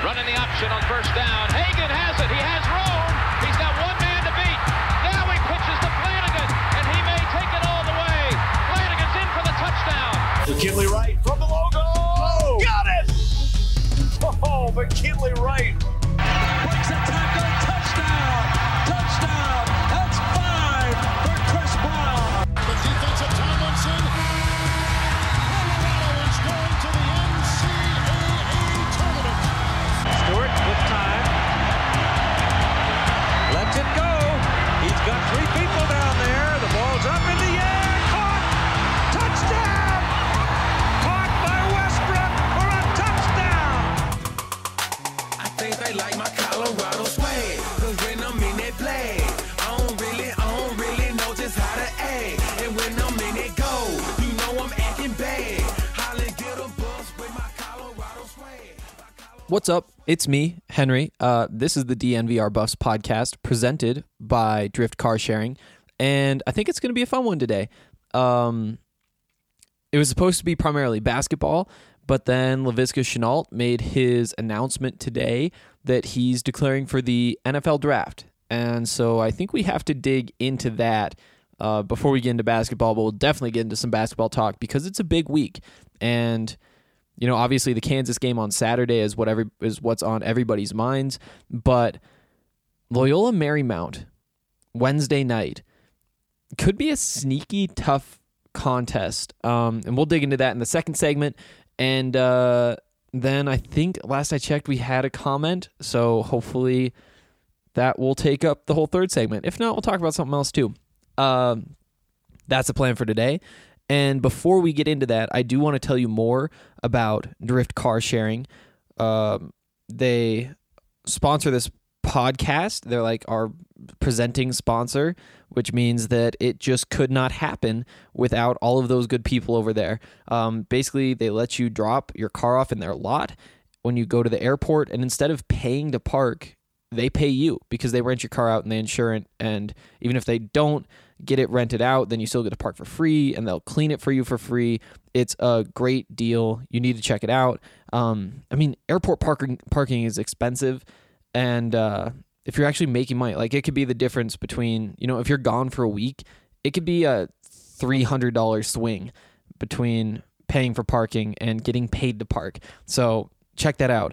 Running the option on first down. Hagan has it. He has room. He's got one man to beat. Now he pitches to Flanagan, and he may take it all the way. Flanagan's in for the touchdown. McKinley Wright from the logo. Oh, got it! Oh, McKinley Wright. Breaks a tackle. Touchdown. Touchdown. That's 5 for Chris Brown. The defensive Tomlinson. Colorado is going to the NCAA tournament. Stewart with time. Lets it go. He's got 3 people down there. The ball's up in the air. Caught. Touchdown. Caught by Westbrook for a touchdown. I think they like my Colorado swag. Cause when I'm in that play, I don't really know just how to act. And when I'm in it go, you know I'm acting bad. Holly get a bus with my Colorado swag. What's up? It's me, Henry. This is the DNVR Buffs podcast presented by Drift Car Sharing, and I think it's going to be a fun one today. It was supposed to be primarily basketball, but then Laviska Shenault made his announcement today that he's declaring for the NFL draft, and so I think we have to dig into that before we get into basketball, but we'll definitely get into some basketball talk because it's a big week, and you know, obviously the Kansas game on Saturday is what's on everybody's minds, but Loyola Marymount Wednesday night could be a sneaky tough contest, and we'll dig into that in the second segment. And then I think last I checked we had a comment, so hopefully that will take up the whole third segment. If not, we'll talk about something else too. That's the plan for today. And before we get into that, I do want to tell you more about Drift Car Sharing. They sponsor this podcast. They're like our presenting sponsor, which means that it just could not happen without all of those good people over there. Basically, they let you drop your car off in their lot when you go to the airport, and instead of paying to park, they pay you because they rent your car out and they insure it. And even if they don't get it rented out, then you still get to park for free, and they'll clean it for you for free. It's a great deal. You need to check it out. Airport parking is expensive, and if you're actually making money, like it could be the difference between, you know, if you're gone for a week, it could be a $300 swing between paying for parking and getting paid to park. So check that out.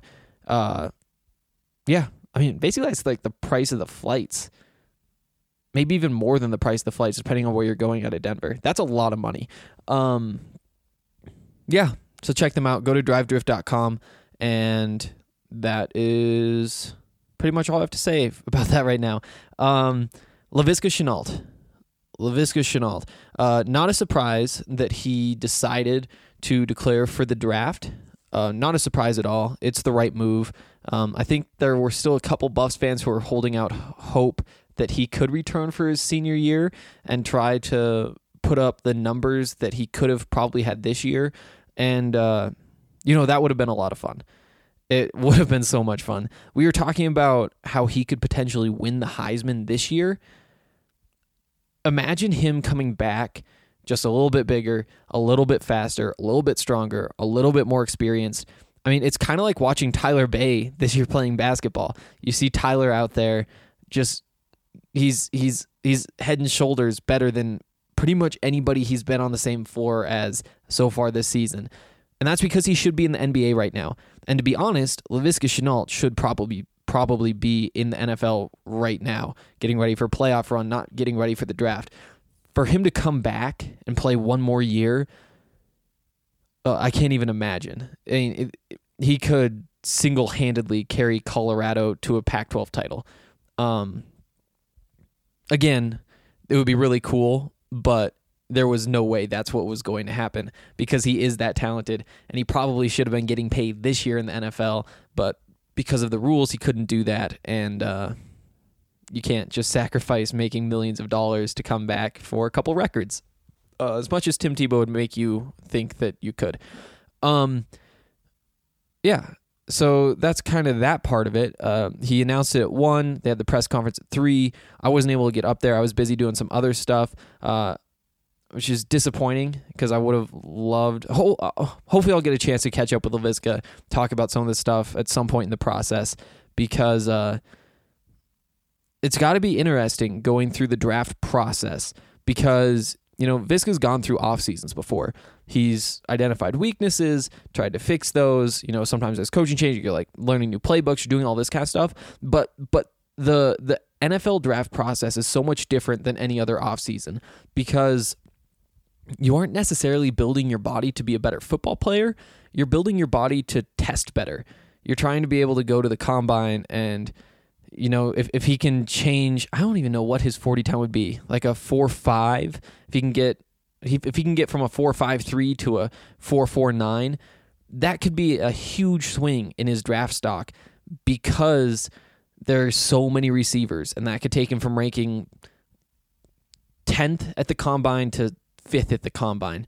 Basically that's like the price of the flights. Maybe even more than the price of the flights, depending on where you're going out of Denver. That's a lot of money. So check them out. Go to drivedrift.com, and that is pretty much all I have to say about that right now. Laviska Shenault. Not a surprise that he decided to declare for the draft. Not a surprise at all. It's the right move. I think there were still a couple Buffs fans who were holding out hope that he could return for his senior year and try to put up the numbers that he could have probably had this year. And, that would have been a lot of fun. It would have been so much fun. We were talking about how he could potentially win the Heisman this year. Imagine him coming back just a little bit bigger, a little bit faster, a little bit stronger, a little bit more experienced. I mean, it's kind of like watching Tyler Bay this year playing basketball. You see Tyler out there just... He's head and shoulders better than pretty much anybody he's been on the same floor as so far this season. And that's because he should be in the NBA right now. And to be honest, Laviska Shenault should probably be in the NFL right now, getting ready for a playoff run, not getting ready for the draft. For him to come back and play one more year, I can't even imagine. I mean, he could single-handedly carry Colorado to a Pac-12 title. Again, it would be really cool, but there was no way that's what was going to happen because he is that talented, and he probably should have been getting paid this year in the NFL, but because of the rules, he couldn't do that, and you can't just sacrifice making millions of dollars to come back for a couple records, as much as Tim Tebow would make you think that you could. So that's kind of that part of it. He announced it at 1. They had the press conference at 3. I wasn't able to get up there. I was busy doing some other stuff. which is disappointing because I would have loved. Hopefully, I'll get a chance to catch up with Laviska, talk about some of this stuff at some point in the process, because it's got to be interesting going through the draft process, because Viska's gone through off seasons before. He's identified weaknesses, tried to fix those. Sometimes as coaching change, you're like learning new playbooks, you're doing all this kind of stuff. But the NFL draft process is so much different than any other off season, because you aren't necessarily building your body to be a better football player. You're building your body to test better. You're trying to be able to go to the combine and, if he can change, I don't even know what his 40 time would be, like a 4.5. If he can get from a 4.53 to a 4.49, that could be a huge swing in his draft stock, because there's so many receivers, and that could take him from ranking 10th at the combine to 5th at the combine.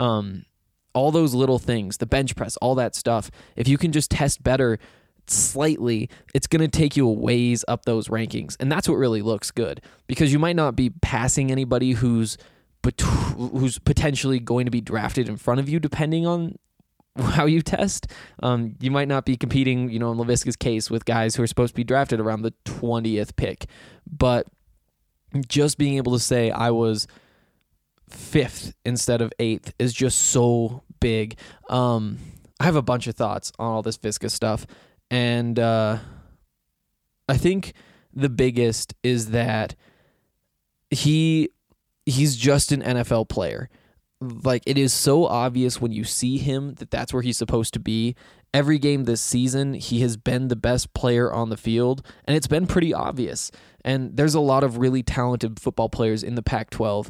All those little things, the bench press, all that stuff, if you can just test better slightly, it's going to take you a ways up those rankings. And that's what really looks good, because you might not be passing anybody who's potentially going to be drafted in front of you, depending on how you test. You might not be competing, in Laviska's case, with guys who are supposed to be drafted around the 20th pick. But just being able to say I was 5th instead of 8th is just so big. I have a bunch of thoughts on all this Viska stuff, and I think the biggest is that he's just an NFL player. Like, it is so obvious when you see him that that's where he's supposed to be. Every game this season, he has been the best player on the field, and it's been pretty obvious. And there's a lot of really talented football players in the Pac-12.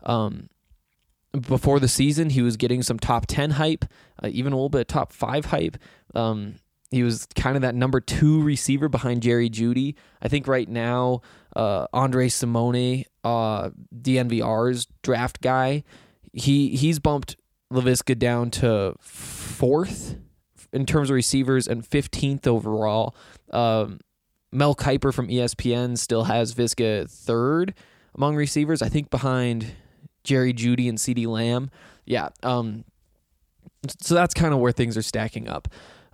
Before the season, he was getting some top 10 hype, even a little bit of top 5 hype. He was kind of that number 2 receiver behind Jerry Jeudy. I think right now, Andre Simone, DNVR's draft guy, he's bumped Laviska down to 4th in terms of receivers and 15th overall. Mel Kiper from ESPN still has Viska 3rd among receivers, I think behind Jerry Jeudy and CeeDee Lamb. Yeah. So that's kind of where things are stacking up.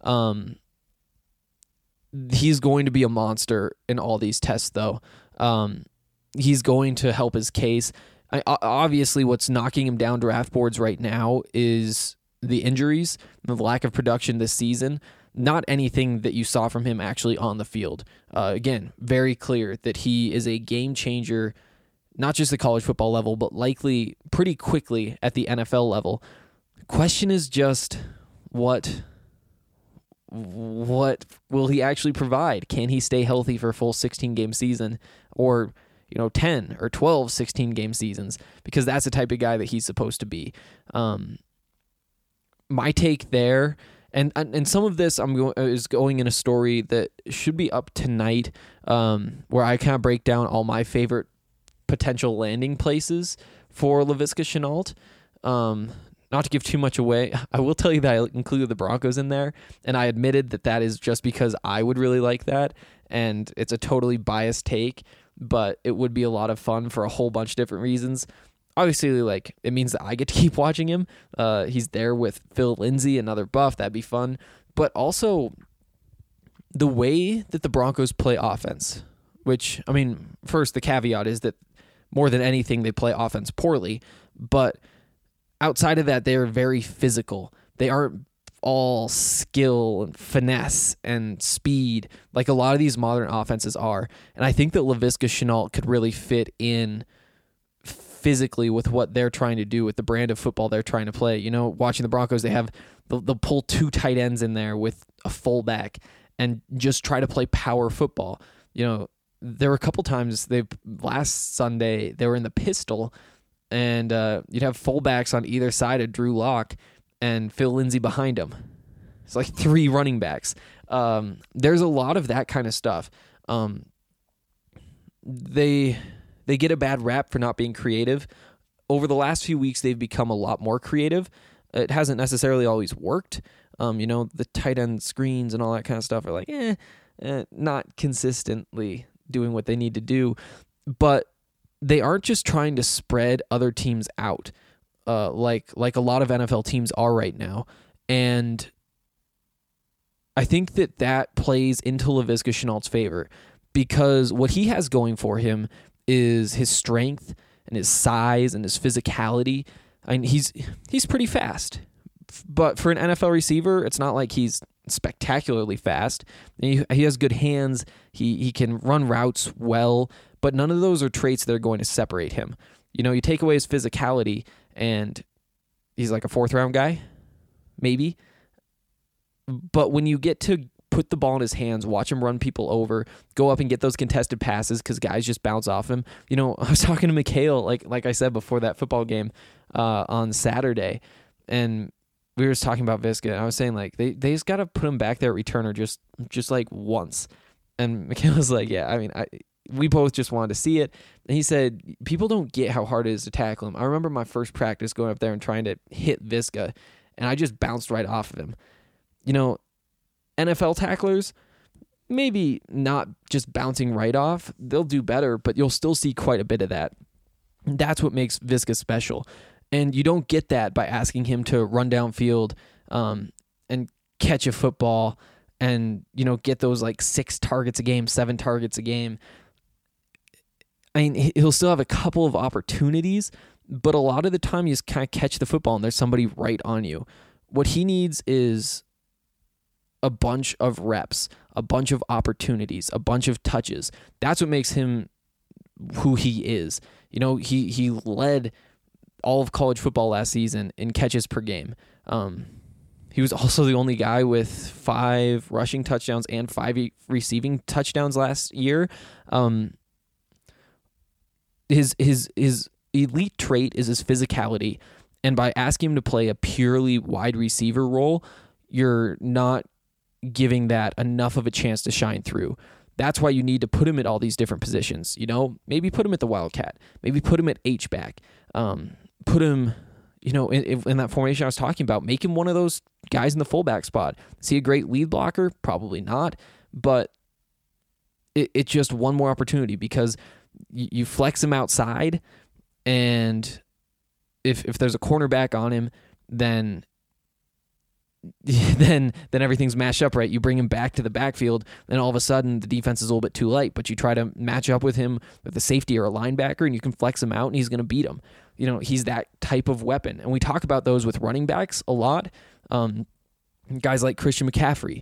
He's going to be a monster in all these tests, though. He's going to help his case. Obviously, what's knocking him down draft boards right now is the injuries, the lack of production this season. Not anything that you saw from him actually on the field. Again, very clear that he is a game changer, not just at college football level, but likely pretty quickly at the NFL level. Question is just what will he actually provide? Can he stay healthy for a full 16-game season, or 10 or 12 16-game seasons? Because that's the type of guy that he's supposed to be. My take there, and some of this is going in a story that should be up tonight, where I kind of break down all my favorite potential landing places for Laviska Shenault. Not to give too much away, I will tell you that I included the Broncos in there, and I admitted that is just because I would really like that, and it's a totally biased take, but it would be a lot of fun for a whole bunch of different reasons. Obviously, it means that I get to keep watching him. He's there with Phil Lindsay, another buff. That'd be fun. But also, the way that the Broncos play offense, which, first, the caveat is that more than anything, they play offense poorly, but outside of that, they are very physical. They aren't all skill and finesse and speed like a lot of these modern offenses are. And I think that Laviska Shenault could really fit in physically with what they're trying to do, with the brand of football they're trying to play. Watching the Broncos, they'll pull 2 tight ends in there with a fullback and just try to play power football. There were a couple times last Sunday they were in the pistol, and you'd have fullbacks on either side of Drew Lock and Phil Lindsay behind him. It's like 3 running backs. There's a lot of that kind of stuff. They get a bad rap for not being creative. Over the last few weeks, they've become a lot more creative. It hasn't necessarily always worked. The tight end screens and all that kind of stuff are not consistently doing what they need to do. But they aren't just trying to spread other teams out. like a lot of NFL teams are right now. And I think that plays into Laviska Shenault's favor, because what he has going for him is his strength and his size and his physicality. I mean, he's pretty fast, but for an NFL receiver, it's not like he's spectacularly fast. He has good hands. He can run routes well, but none of those are traits that are going to separate him. You take away his physicality, and he's like a 4th-round guy, maybe. But when you get to put the ball in his hands, watch him run people over, go up and get those contested passes because guys just bounce off him. I was talking to Mikhail, like I said, before that football game on Saturday, and we were just talking about Viska, and I was saying, like, they just got to put him back there at returner just like once. And Mikhail was like, yeah, I mean, we both just wanted to see it. And he said, people don't get how hard it is to tackle him. I remember my first practice going up there and trying to hit Viska, and I just bounced right off of him. NFL tacklers, maybe not just bouncing right off. They'll do better, but you'll still see quite a bit of that. That's what makes Viska special. And you don't get that by asking him to run downfield and catch a football and, get those like 6 targets a game, 7 targets a game. I mean, he'll still have a couple of opportunities, but a lot of the time you just kind of catch the football and there's somebody right on you. What he needs is a bunch of reps, a bunch of opportunities, a bunch of touches. That's what makes him who he is. He led all of college football last season in catches per game. He was also the only guy with 5 rushing touchdowns and 5 receiving touchdowns last year. His elite trait is his physicality, and by asking him to play a purely wide receiver role, you're not giving that enough of a chance to shine through. That's why you need to put him at all these different positions. Maybe put him at the Wildcat, maybe put him at H-back, put him, in that formation I was talking about. Make him one of those guys in the fullback spot. Is he a great lead blocker? Probably not, but it's just one more opportunity, because you flex him outside, and if there's a cornerback on him, then everything's mashed up right. You bring him back to the backfield, and all of a sudden the defense is a little bit too light, but you try to match up with him with a safety or a linebacker, and you can flex him out, and he's going to beat him. He's that type of weapon, and we talk about those with running backs a lot. Guys like Christian McCaffrey,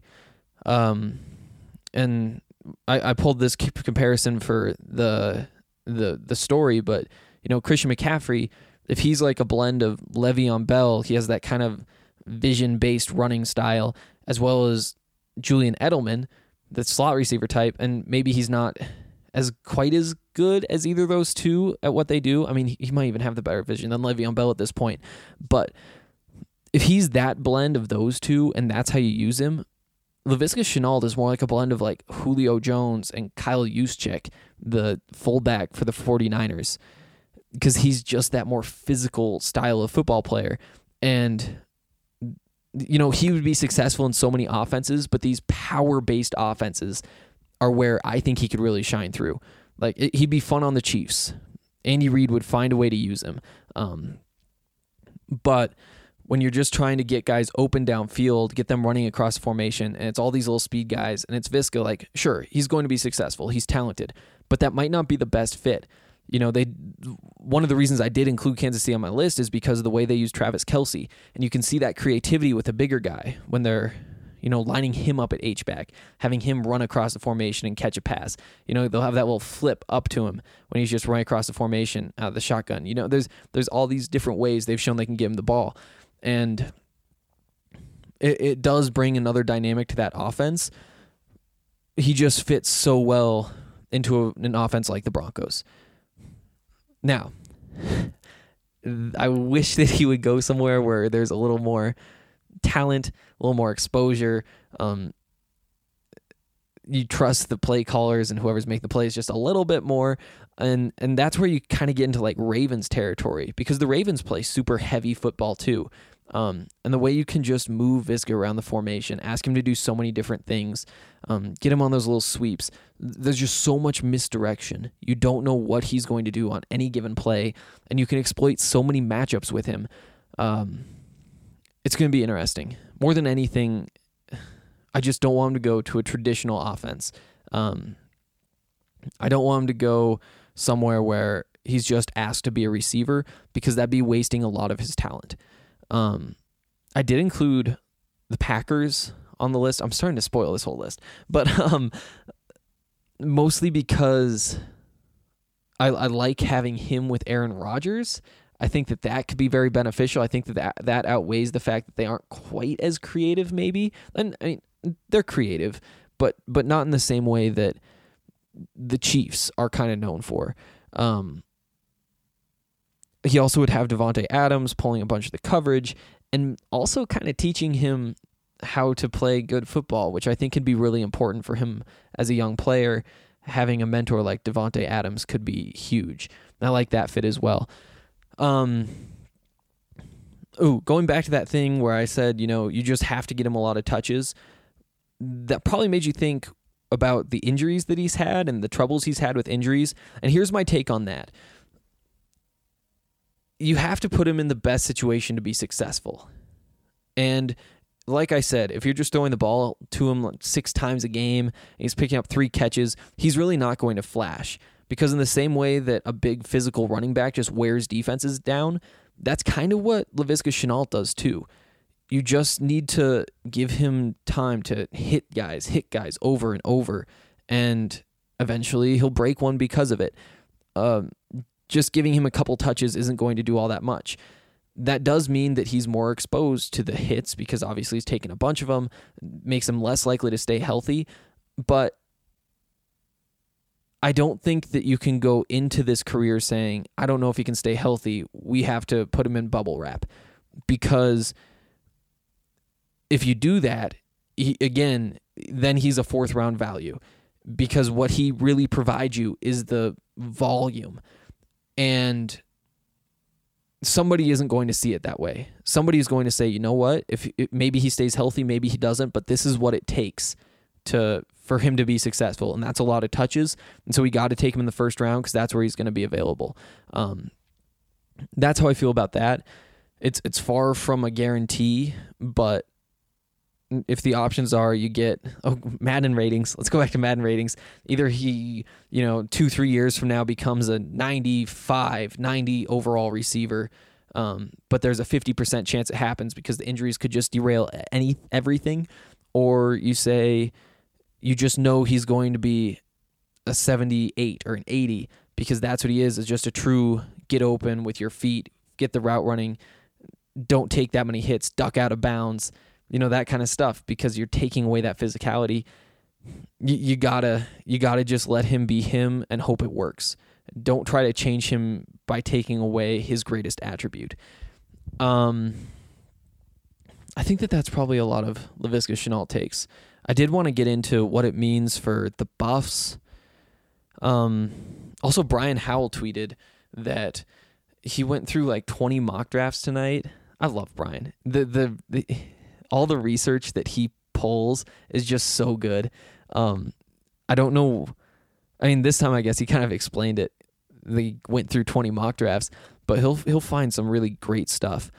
and I pulled this comparison for the story, but Christian McCaffrey, if he's like a blend of Le'Veon Bell, he has that kind of vision-based running style, as well as Julian Edelman, the slot receiver type, and maybe he's not quite as good as either of those two at what they do. I mean, he might even have the better vision than Le'Veon Bell at this point, but if he's that blend of those two and that's how you use him, Laviska Shenault is more like a blend of like Julio Jones and Kyle Juszczyk, the fullback for the 49ers, because he's just that more physical style of football player. And he would be successful in so many offenses, but these power-based offenses are where I think he could really shine through. Like, he'd be fun on the Chiefs. Andy Reid would find a way to use him. But when you're just trying to get guys open downfield, get them running across the formation, and it's all these little speed guys, and it's Viska, like, sure, he's going to be successful. He's talented, but that might not be the best fit. One of the reasons I did include Kansas City on my list is because of the way they use Travis Kelce, and you can see that creativity with a bigger guy when they're, lining him up at H-back, having him run across the formation and catch a pass. They'll have that little flip up to him when he's just running across the formation out of the shotgun. There's all these different ways they've shown they can give him the ball, and it does bring another dynamic to that offense. He just fits so well into an offense like the Broncos. Now, I wish that he would go somewhere where there's a little more talent, a little more exposure. You trust the play callers and whoever's making the plays just a little bit more. And that's where you kind of get into like Ravens territory, because the Ravens play super heavy football too. And the way you can just move Viska around the formation, ask him to do so many different things, get him on those little sweeps. There's just so much misdirection. You don't know what he's going to do on any given play, and you can exploit so many matchups with him. It's going to be interesting. More than anything, I just don't want him to go to a traditional offense. I don't want him to go somewhere where he's just asked to be a receiver, because that'd be wasting a lot of his talent. I did include the Packers on the list. I'm starting to spoil this whole list, but mostly because I like having him with Aaron Rodgers. I think that could be very beneficial. I think that outweighs the fact that they aren't quite as creative, maybe. And I mean, they're creative, but not in the same way that the Chiefs are kind of known for. He also would have Devontae Adams pulling a bunch of the coverage and also kind of teaching him how to play good football, which I think could be really important for him as a young player. Having a mentor like Devontae Adams could be huge. And I like that fit as well. Going back to that thing where I said, you just have to get him a lot of touches. That probably made you think about the injuries that he's had and the troubles he's had with injuries. And here's my take on that. You have to put him in the best situation to be successful. And like I said, if you're just throwing the ball to him 6 times a game and he's picking up 3 catches, he's really not going to flash. Because in the same way that a big physical running back just wears defenses down, that's kind of what Laviska Shenault does too. You just need to give him time to hit guys over and over, and eventually he'll break one because of it. Just giving him a couple touches isn't going to do all that much. That does mean that he's more exposed to the hits because obviously he's taken a bunch of them, makes him less likely to stay healthy. But I don't think that you can go into this career saying, I don't know if he can stay healthy. We have to put him in bubble wrap. Because if you do that, then he's a 4th round value. Because what he really provides you is the volume. And somebody isn't going to see it that way. Somebody is going to say, you know what? Maybe he stays healthy, maybe he doesn't, but this is what it takes for him to be successful, and that's a lot of touches. And so we got to take him in the 1st round because that's where he's going to be available. That's how I feel about that. It's far from a guarantee, but if the options are you get Madden ratings, let's go back to Madden ratings. Either he, 2-3 years from now becomes a 95, 90 overall receiver, but there's a 50% chance it happens because the injuries could just derail everything. Or you say you just know he's going to be a 78 or an 80 because that's what he is just a true get open with your feet, get the route running, don't take that many hits, duck out of bounds, that kind of stuff, because you're taking away that physicality. You gotta just let him be him and hope it works. Don't try to change him by taking away his greatest attribute. I think that's probably a lot of Laviska Shenault takes. I did want to get into what it means for the Buffs. Also, Brian Howell tweeted that he went through like 20 mock drafts tonight. I love Brian. All the research that he pulls is just so good. I don't know. I mean, this time I guess he kind of explained it. They went through 20 mock drafts, but he'll find some really great stuff.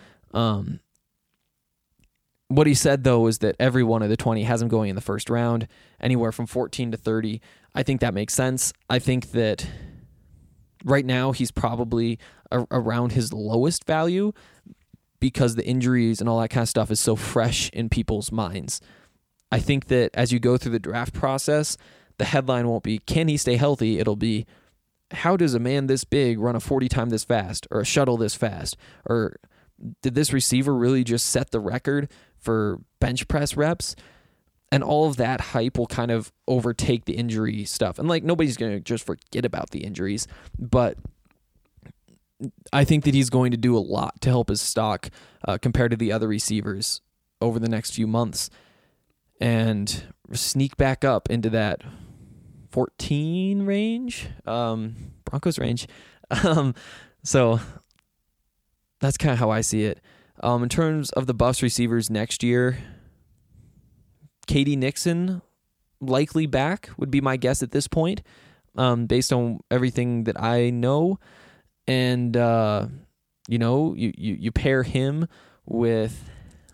What he said, though, is that every one of the 20 has him going in the 1st round, anywhere from 14 to 30. I think that makes sense. I think that right now he's probably around his lowest value because the injuries and all that kind of stuff is so fresh in people's minds. I think that as you go through the draft process, the headline won't be, can he stay healthy? It'll be, how does a man this big run a 40 time this fast, or a shuttle this fast? Or did this receiver really just set the record for bench press reps? And all of that hype will kind of overtake the injury stuff. And like, nobody's going to just forget about the injuries, but I think that he's going to do a lot to help his stock compared to the other receivers over the next few months, and sneak back up into that 14 range, Broncos range. So that's kind of how I see it. In terms of the bus receivers next year, K.D. Nixon likely back would be my guess at this point, based on everything that I know. And, you pair him with,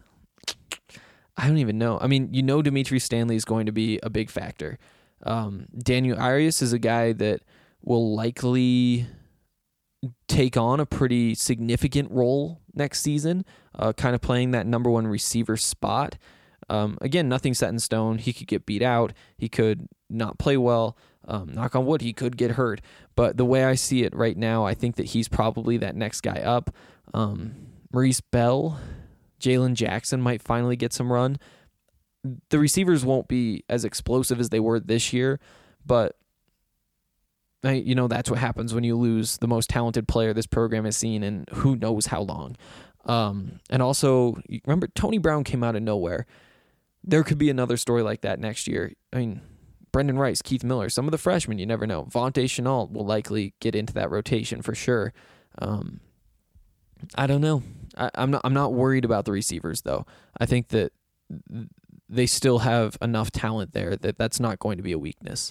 I don't even know. I mean, Dimitri Stanley is going to be a big factor. Daniel Arias is a guy that will likely take on a pretty significant role next season, kind of playing that number one receiver spot. Again, nothing set in stone. He could get beat out. He could not play well. Knock on wood, he could get hurt. But the way I see it right now, I think that he's probably that next guy up. Maurice Bell, Jalen Jackson might finally get some run. The receivers won't be as explosive as they were this year, but that's what happens when you lose the most talented player this program has seen in who knows how long. And also, remember, Tony Brown came out of nowhere. There could be another story like that next year. I mean, Brendan Rice, Keith Miller, some of the freshmen, you never know. Vontae Chenault will likely get into that rotation for sure. I don't know. I'm not worried about the receivers, though. I think that they still have enough talent there that's not going to be a weakness.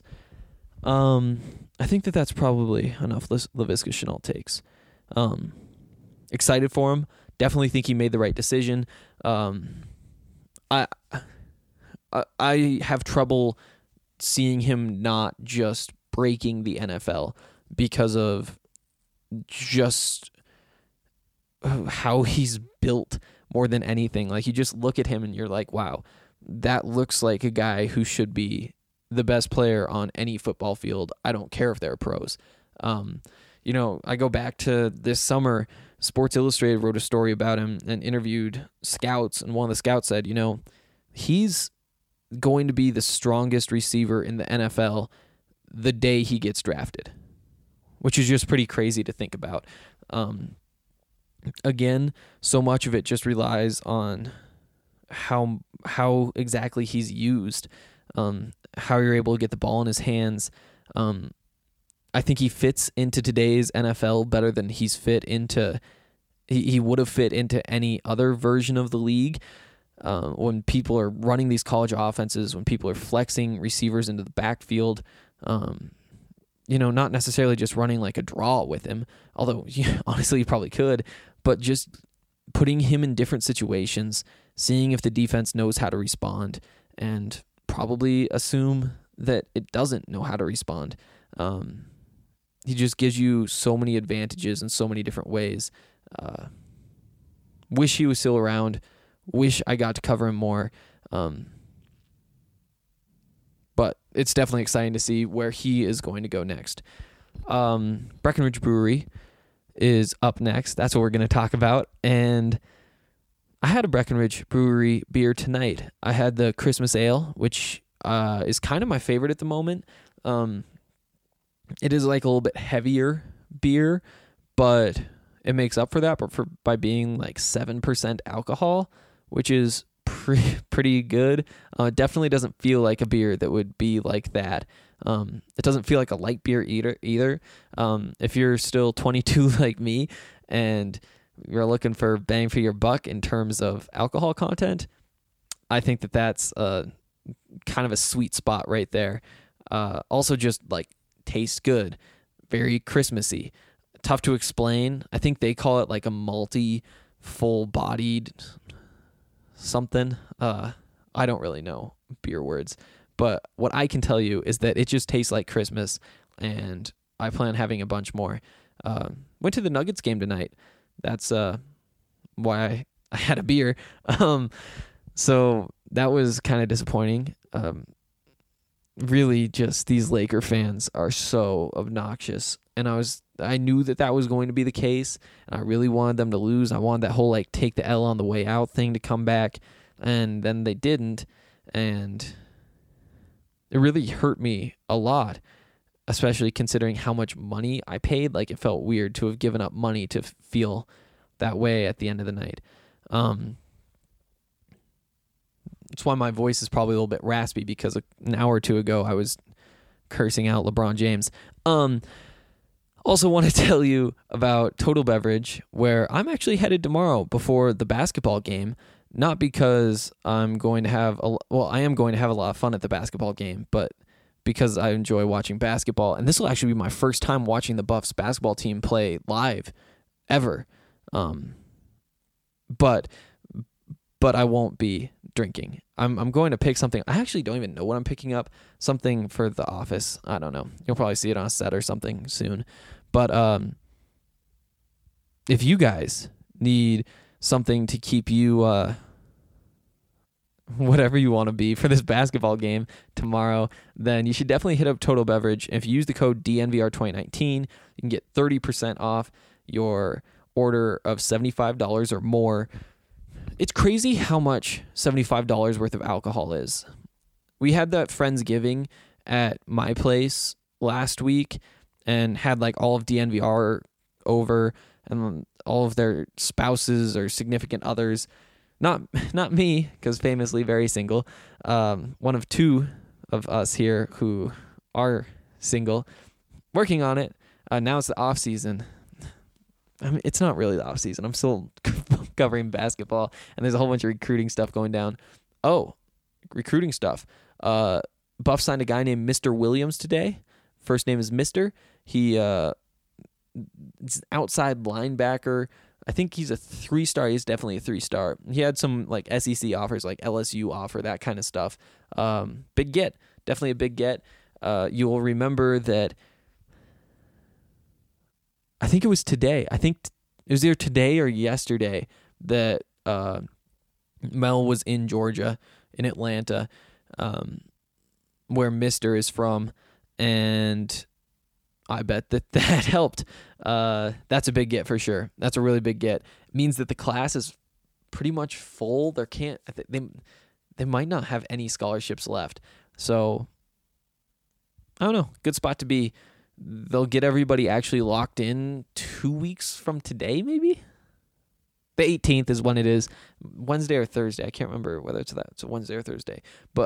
I think that's probably enough Laviska Shenault takes. Excited for him. Definitely think he made the right decision. I have trouble seeing him not just breaking the NFL because of just how he's built more than anything. Like, you just look at him and you're like, wow, that looks like a guy who should be the best player on any football field. I don't care if they're pros. I go back to this summer, Sports Illustrated wrote a story about him and interviewed scouts, and one of the scouts said, he's going to be the strongest receiver in the NFL the day he gets drafted, which is just pretty crazy to think about. Again, so much of it just relies on how exactly he's used, how you're able to get the ball in his hands. I think he fits into today's NFL better than he would have fit into any other version of the league. When people are running these college offenses, when people are flexing receivers into the backfield, not necessarily just running like a draw with him, although honestly you probably could, but just putting him in different situations, seeing if the defense knows how to respond, and probably assume that it doesn't know how to respond. He just gives you so many advantages in so many different ways. Wish he was still around. Wish I got to cover him more. But it's definitely exciting to see where he is going to go next. Breckenridge Brewery is up next. That's what we're going to talk about. And I had a Breckenridge Brewery beer tonight. I had the Christmas Ale, which is kind of my favorite at the moment. It is like a little bit heavier beer, but it makes up for that by being like 7% alcohol, which is pretty good. It definitely doesn't feel like a beer that would be like that. It doesn't feel like a light beer either. If you're still 22 like me and you're looking for bang for your buck in terms of alcohol content, I think that's kind of a sweet spot right there. Also just like tastes good, very Christmassy. Tough to explain. I think they call it like a malty, full-bodied something. I don't really know beer words, but what I can tell you is that it just tastes like Christmas, and I plan on having a bunch more. Went to the Nuggets game tonight. That's why I had a beer. So that was kind of disappointing. Really, just these Laker fans are so obnoxious, and I knew that was going to be the case, and I really wanted them to lose. I wanted that whole like take the L on the way out thing to come back, and then they didn't, and it really hurt me a lot, especially considering how much money I paid. Like, it felt weird to have given up money to feel that way at the end of the night. That's why my voice is probably a little bit raspy, because an hour or two ago I was cursing out LeBron James. Also want to tell you about Total Beverage, where I'm actually headed tomorrow before the basketball game. Not because I'm going to have I am going to have a lot of fun at the basketball game, but because I enjoy watching basketball. And this will actually be my first time watching the Buffs basketball team play live ever. But I won't be drinking. I'm going to pick something. I actually don't even know what I'm picking up. Something for the office. I don't know. You'll probably see it on a set or something soon. But if you guys need something to keep you whatever you want to be for this basketball game tomorrow, then you should definitely hit up Total Beverage. If you use the code DNVR2019, you can get 30% off your order of $75 or more. It's crazy how much $75 worth of alcohol is. We had that Friendsgiving at my place last week and had like all of DNVR over and all of their spouses or significant others. Not me, because famously very single. One of two of us here who are single, working on it. Now it's the off season. I mean, it's not really the off season. I'm still covering basketball, and there's a whole bunch of recruiting stuff going down. Oh, recruiting stuff. Buff signed a guy named Mr. Williams today. First name is Mr. He is an outside linebacker. I think he's a 3-star. He's definitely a 3-star. He had some like SEC offers, like LSU offer, that kind of stuff. Big get. Definitely a big get. You will remember that I think it was today. I think it was either today or yesterday that Mel was in Georgia, in Atlanta, where Mr. is from, and I bet that helped. That's a big get for sure. That's a really big get. It means that the class is pretty much full. They might not have any scholarships left. So I don't know. Good spot to be. They'll get everybody actually locked in 2 weeks from today, maybe? The 18th is when it is. Wednesday or Thursday. I can't remember whether it's a Wednesday or Thursday. But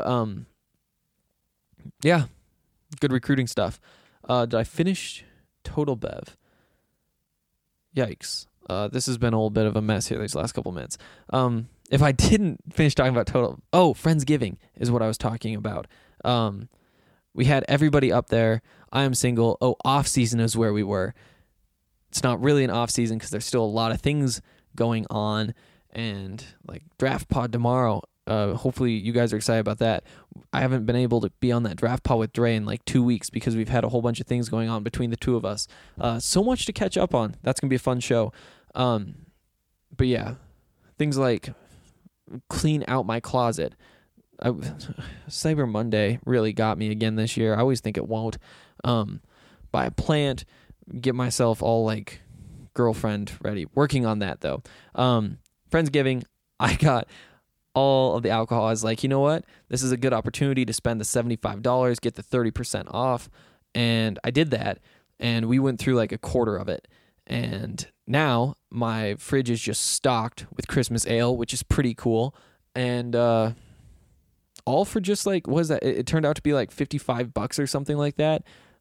yeah, good recruiting stuff. Did I finish Total Bev? Yikes. This has been a little bit of a mess here these last couple minutes. If I didn't finish talking about Total... Oh, Friendsgiving is what I was talking about. We had everybody up there. I am single. Oh, off-season is where we were. It's not really an off-season because there's still a lot of things going on. And like draft pod tomorrow. Hopefully you guys are excited about that. I haven't been able to be on that draft pod with Dre in like 2 weeks because we've had a whole bunch of things going on between the two of us. So much to catch up on. That's going to be a fun show. But yeah, things like clean out my closet. Cyber Monday really got me again this year. I always think it won't. Buy a plant, get myself all like girlfriend ready. Working on that though. Friendsgiving, I got all of the alcohol. I was like, you know what? This is a good opportunity to spend the $75, get the 30% off. And I did that. And we went through like a quarter of it. And now my fridge is just stocked with Christmas ale, which is pretty cool. And all for just like, what is that? It turned out to be like $55 or something like that.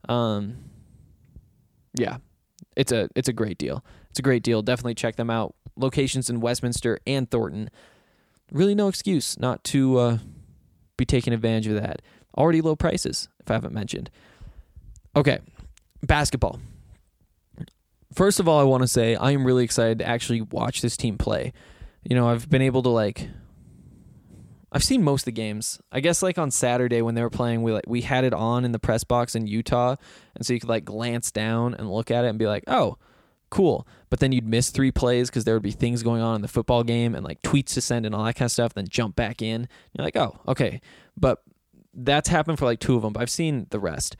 Yeah, it's a great deal. It's a great deal. Definitely check them out. Locations in Westminster and Thornton. Really no excuse not to be taking advantage of that. Already low prices, if I haven't mentioned. Okay, basketball. First of all, I want to say I am really excited to actually watch this team play. You know, I've been able to I've seen most of the games. I guess like on Saturday when they were playing, we had it on in the press box in Utah, and so you could like glance down and look at it and be like, oh, cool. But then you'd miss 3 plays because there would be things going on in the football game and like tweets to send and all that kind of stuff, then jump back in. You're like, oh, okay. But that's happened for like 2 of them, but I've seen the rest.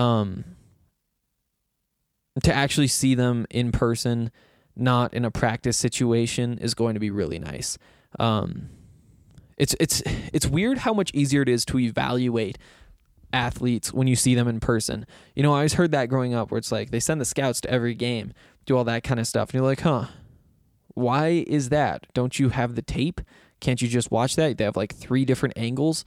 To actually see them in person, not in a practice situation, is going to be really nice. It's weird how much easier it is to evaluate athletes when you see them in person. You know, I always heard that growing up where it's like they send the scouts to every game, do all that kind of stuff. And you're like, huh, why is that? Don't you have the tape? Can't you just watch that? They have like 3 different angles.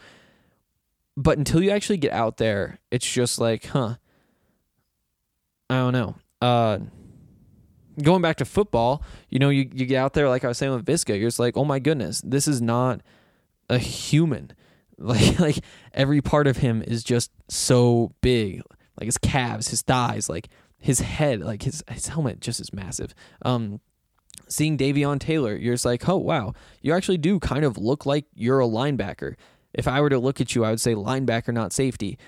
But until you actually get out there, it's just like, huh, I don't know. Going back to football, you get out there, like I was saying with Visca, you're just like, oh my goodness, this is not a human. Like every part of him is just so big. Like his calves, his thighs, like his head, like his helmet just is massive. Seeing Davion Taylor, you're just like, oh wow, you actually do kind of look like you're a linebacker. If I were to look at you, I would say linebacker, not safety.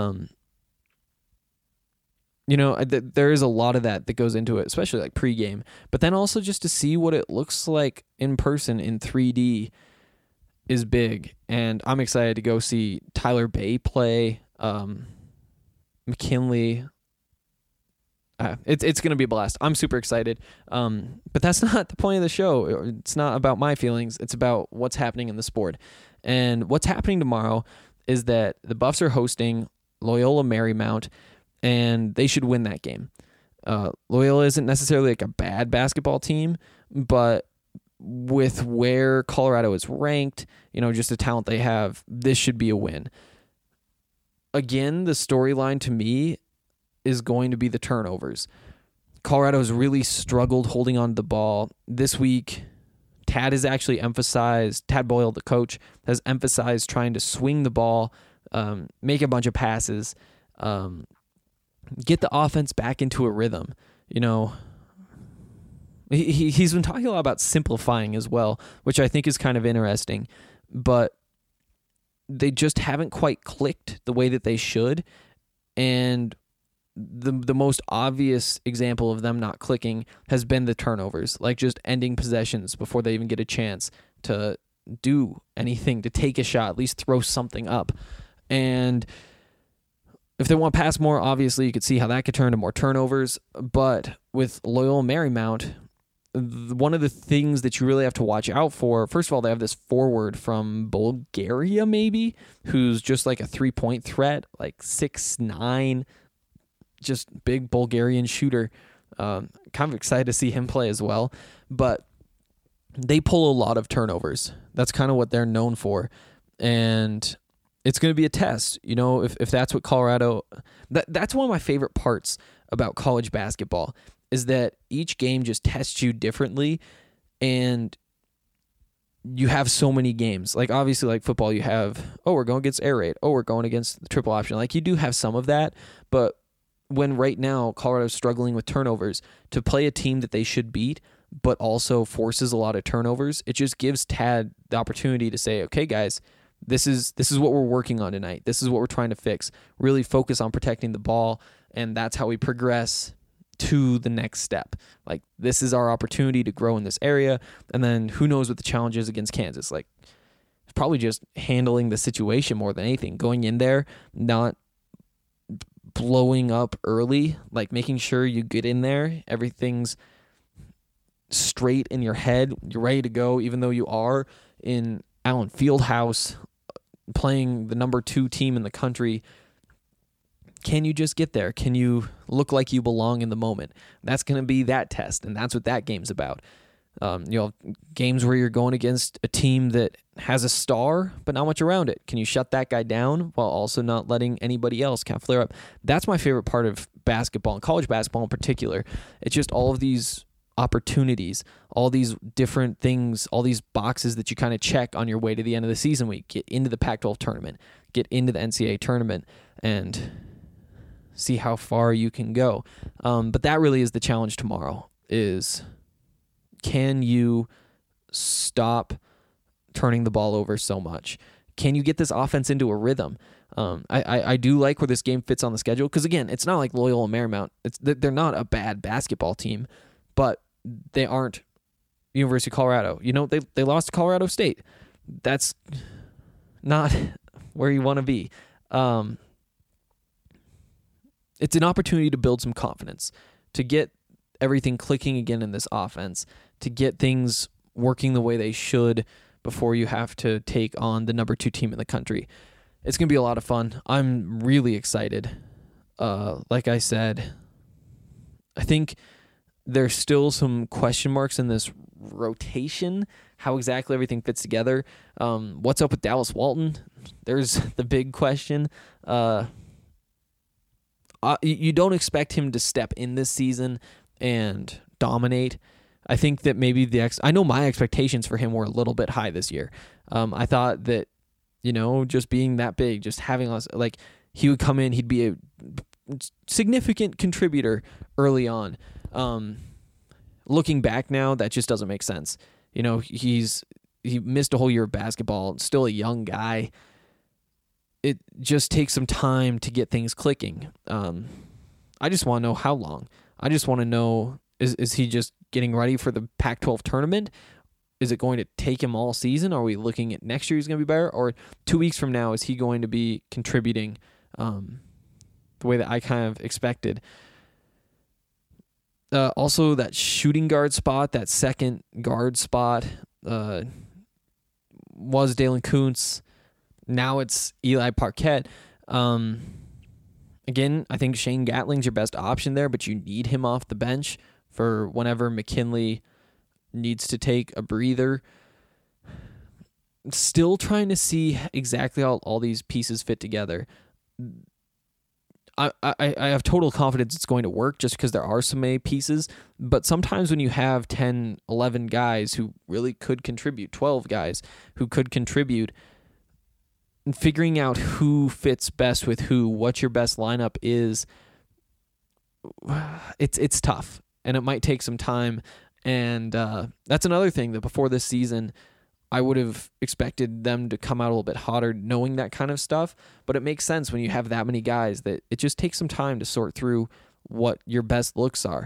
There is a lot of that goes into it, especially like pregame. But then also just to see what it looks like in person in 3D is big. And I'm excited to go see Tyler Bay play, McKinley. It's going to be a blast. I'm super excited. But that's not the point of the show. It's not about my feelings. It's about what's happening in the sport. And what's happening tomorrow is that the Buffs are hosting Loyola Marymount, and they should win that game. Loyola isn't necessarily like a bad basketball team, but with where Colorado is ranked, just the talent they have, this should be a win. Again, the storyline to me is going to be the turnovers. Colorado's really struggled holding on to the ball. This week, Tad Boyle, the coach, has emphasized trying to swing the ball, make a bunch of passes, get the offense back into a rhythm. He's been talking a lot about simplifying as well, which I think is kind of interesting, but they just haven't quite clicked the way that they should. And the most obvious example of them not clicking has been the turnovers, like just ending possessions before they even get a chance to do anything, to take a shot, at least throw something up. And if they want to pass more, obviously you could see how that could turn to more turnovers. But with Loyola Marymount, one of the things that you really have to watch out for, first of all, they have this forward from Bulgaria, maybe, who's just like a 3-point threat, like 6'9", just big Bulgarian shooter. Kind of excited to see him play as well. But they pull a lot of turnovers. That's kind of what they're known for. And it's going to be a test, if that's what Colorado... That's one of my favorite parts about college basketball, is that each game just tests you differently, and you have so many games. Like, obviously, like football, you have, we're going against air raid. We're going against the triple option. Like, you do have some of that, but when right now Colorado's struggling with turnovers, to play a team that they should beat, but also forces a lot of turnovers, it just gives Tad the opportunity to say, okay, guys, this is what we're working on tonight. This is what we're trying to fix. Really focus on protecting the ball, and that's how we progress to the next step. Like, this is our opportunity to grow in this area, and then who knows what the challenge is against Kansas. Like, it's probably just handling the situation more than anything. Going in there, not blowing up early, like making sure you get in there, everything's straight in your head, you're ready to go, even though you are in Allen Fieldhouse playing the number 2 team in the country. Can you just get there? Can you look like you belong in the moment? That's going to be that test, and that's what that game's about. Games where you're going against a team that has a star, but not much around it. Can you shut that guy down while also not letting anybody else kind of flare up? That's my favorite part of basketball, and college basketball in particular. It's just all of these opportunities, all these different things, all these boxes that you kind of check on your way to the end of the season week. Get into the Pac-12 tournament, get into the NCAA tournament, and see how far you can go. But that really is the challenge tomorrow, is can you stop turning the ball over so much? Can you get this offense into a rhythm? I do like where this game fits on the schedule, because, again, it's not like Loyola Marymount. They're not a bad basketball team, but they aren't University of Colorado. They lost to Colorado State. That's not where you want to be. It's an opportunity to build some confidence, to get everything clicking again in this offense, to get things working the way they should before you have to take on the number 2 team in the country. It's going to be a lot of fun. I'm really excited. Like I said, I think there's still some question marks in this rotation, how exactly everything fits together. What's up with Dallas Walton? There's the big question. You don't expect him to step in this season and dominate. I think that maybe I know my expectations for him were a little bit high this year. I thought that, just being that big, just having us, like, he would come in, he'd be a significant contributor early on. Looking back now, that just doesn't make sense. He missed a whole year of basketball, still a young guy. It just takes some time to get things clicking. I just want to know how long. I just want to know, is he just getting ready for the Pac-12 tournament? Is it going to take him all season? Are we looking at next year he's going to be better? Or 2 weeks from now, is he going to be contributing the way that I kind of expected? Also, that shooting guard spot, that second guard spot, was Dalen Kuntz. Now it's Eli Parquet. Again, I think Shane Gatling's your best option there, but you need him off the bench for whenever McKinley needs to take a breather. Still trying to see exactly how all these pieces fit together. I have total confidence it's going to work just because there are so many pieces, but sometimes when you have 10, 11 guys who really could contribute, 12 guys who could contribute, and figuring out who fits best with who, what your best lineup is, it's tough, and it might take some time. And that's another thing that before this season, I would have expected them to come out a little bit hotter knowing that kind of stuff. But it makes sense when you have that many guys that it just takes some time to sort through what your best looks are.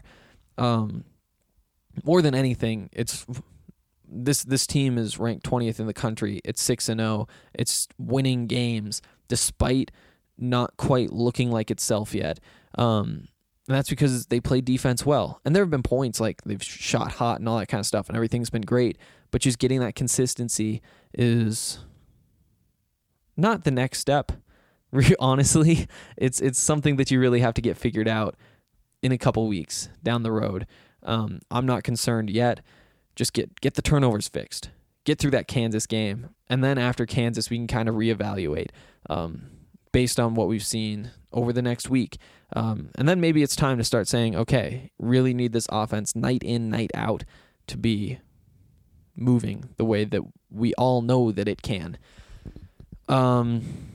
More than anything, it's this team is ranked 20th in the country. It's 6-0. It's winning games despite not quite looking like itself yet. And that's because they play defense well. And there have been points like they've shot hot and all that kind of stuff, and everything's been great. But just getting that consistency is not the next step. Honestly, it's something that you really have to get figured out in a couple weeks down the road. I'm not concerned yet. Just get the turnovers fixed. Get through that Kansas game. And then after Kansas, we can kind of reevaluate based on what we've seen over the next week. And then maybe it's time to start saying, okay, really need this offense night in, night out to be moving the way that we all know that it can. I'll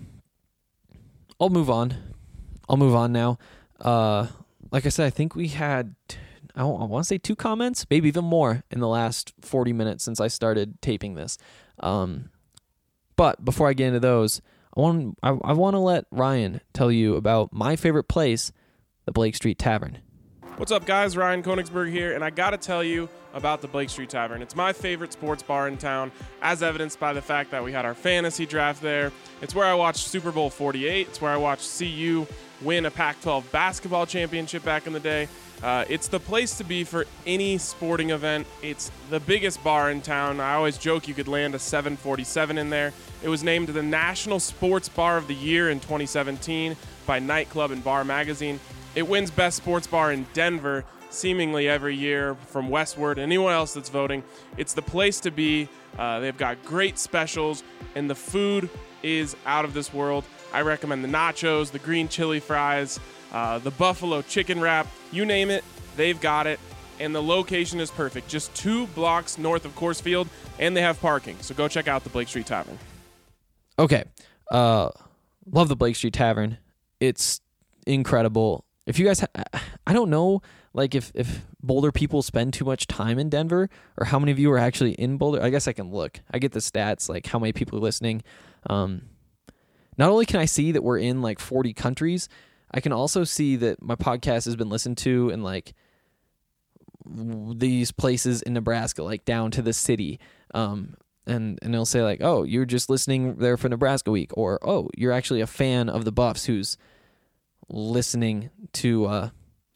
move on. I'll move on now. Like I said, I think we had, I want to say 2 comments, maybe even more in the last 40 minutes since I started taping this. But before I get into those, I want to let Ryan tell you about my favorite place, the Blake Street Tavern. What's up, guys? Ryan Koenigsberg here, and I got to tell you about the Blake Street Tavern. It's my favorite sports bar in town, as evidenced by the fact that we had our fantasy draft there. It's where I watched Super Bowl 48. It's where I watched CU win a Pac-12 basketball championship back in the day. It's the place to be for any sporting event. It's the biggest bar in town. I always joke you could land a 747 in there. It was named the National Sports Bar of the Year in 2017 by Nightclub and Bar Magazine. It wins Best Sports Bar in Denver seemingly every year from Westward. Anyone else that's voting, it's the place to be. They've got great specials, and the food is out of this world. I recommend the nachos, the green chili fries, the buffalo chicken wrap, you name it, they've got it. And the location is perfect, just 2 blocks north of Coors Field, and they have parking. So go check out the Blake Street Tavern. Okay. Love the Blake Street Tavern. It's incredible. If you guys, I don't know, like if Boulder people spend too much time in Denver, or how many of you are actually in Boulder. I guess I can look. I get the stats, like how many people are listening. Not only can I see that we're in like 40 countries, I can also see that my podcast has been listened to in like these places in Nebraska, like down to the city. And they'll say like, oh, you're just listening there for Nebraska week, or oh, you're actually a fan of the Buffs who's listening to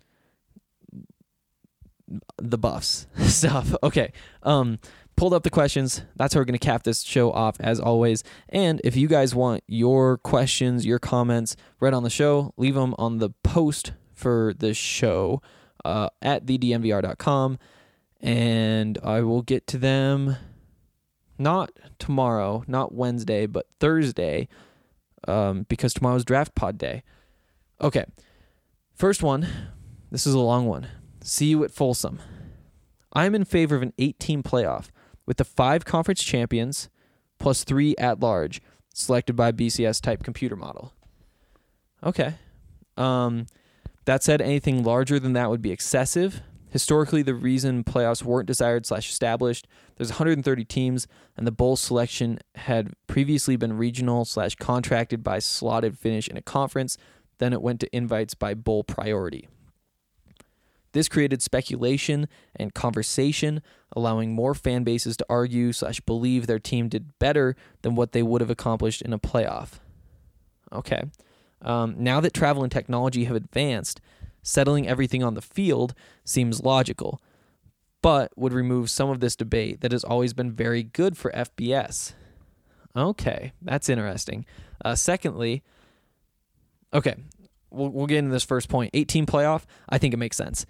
the Buffs stuff. Okay. Pulled up the questions. That's how we're going to cap this show off, as always. And if you guys want your questions, your comments read on the show, leave them on the post for the show at thednvr.com, and I will get to them not tomorrow, not Wednesday, but Thursday, because tomorrow's draft pod day. Okay. First one, this is a long one. See you at Folsom. I'm in favor of an 8-team playoff with the 5 conference champions plus 3 at-large selected by BCS-type computer model. Okay. That said, anything larger than that would be excessive. Historically, the reason playoffs weren't desired/established, there's 130 teams, and the bowl selection had previously been regional/contracted by slotted finish in a conference. Then it went to invites by bowl priority. This created speculation and conversation, allowing more fan bases to argue/believe their team did better than what they would have accomplished in a playoff. Okay. Now that travel and technology have advanced, settling everything on the field seems logical, but would remove some of this debate that has always been very good for FBS. Okay, that's interesting. Secondly, okay, we'll get into this first point. 8-team playoff, I think it makes sense.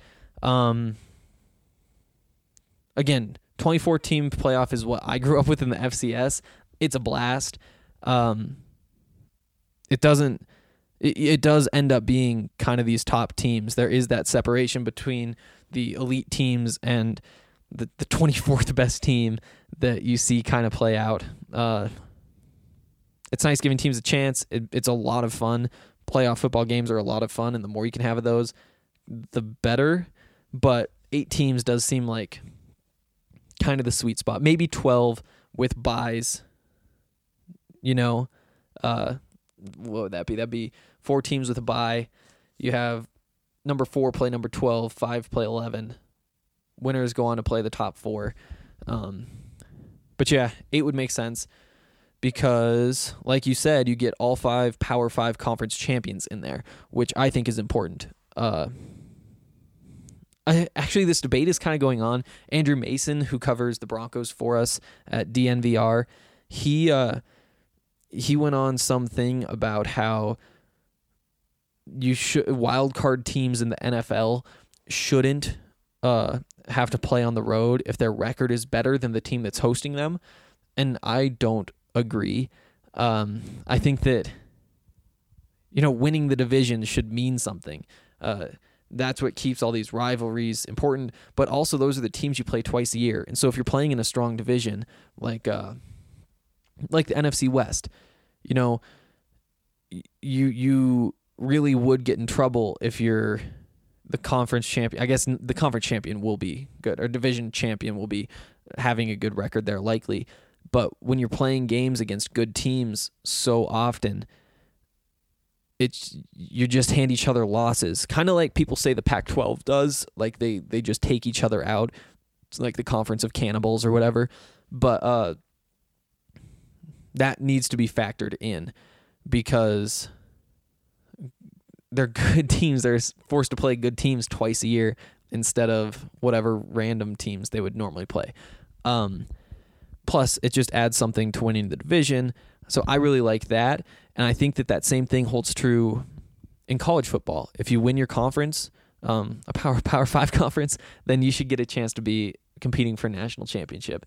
Again, 24-team playoff is what I grew up with in the FCS. It's a blast. It does end up being kind of these top teams. There is that separation between the elite teams and the 24th best team that you see kind of play out. It's nice giving teams a chance. It's a lot of fun. Playoff football games are a lot of fun, and the more you can have of those, the better. But 8 teams does seem like kind of the sweet spot. Maybe 12 with buys. What would that be? That'd be 4 teams with a bye. You have number 4 play number 12, 5 play 11. Winners go on to play the top 4. But yeah, 8 would make sense because, like you said, you get all 5 Power 5 conference champions in there, which I think is important. Actually, this debate is kind of going on. Andrew Mason, who covers the Broncos for us at DNVR, he went on something about how wild card teams in the NFL shouldn't have to play on the road if their record is better than the team that's hosting them, and I don't agree. I think that winning the division should mean something. That's what keeps all these rivalries important, but also those are the teams you play twice a year, and so if you're playing in a strong division like the NFC West, you really would get in trouble if you're the conference champion. I guess the conference champion will be good, or division champion will be having a good record there likely. But when you're playing games against good teams so often, you just hand each other losses. Kind of like people say the Pac-12 does, like they just take each other out. It's like the Conference of Cannibals or whatever. But that needs to be factored in because they're good teams. They're forced to play good teams twice a year instead of whatever random teams they would normally play. Plus, it just adds something to winning the division. So I really like that. And I think that same thing holds true in college football. If you win your conference, a Power 5 conference, then you should get a chance to be competing for a national championship.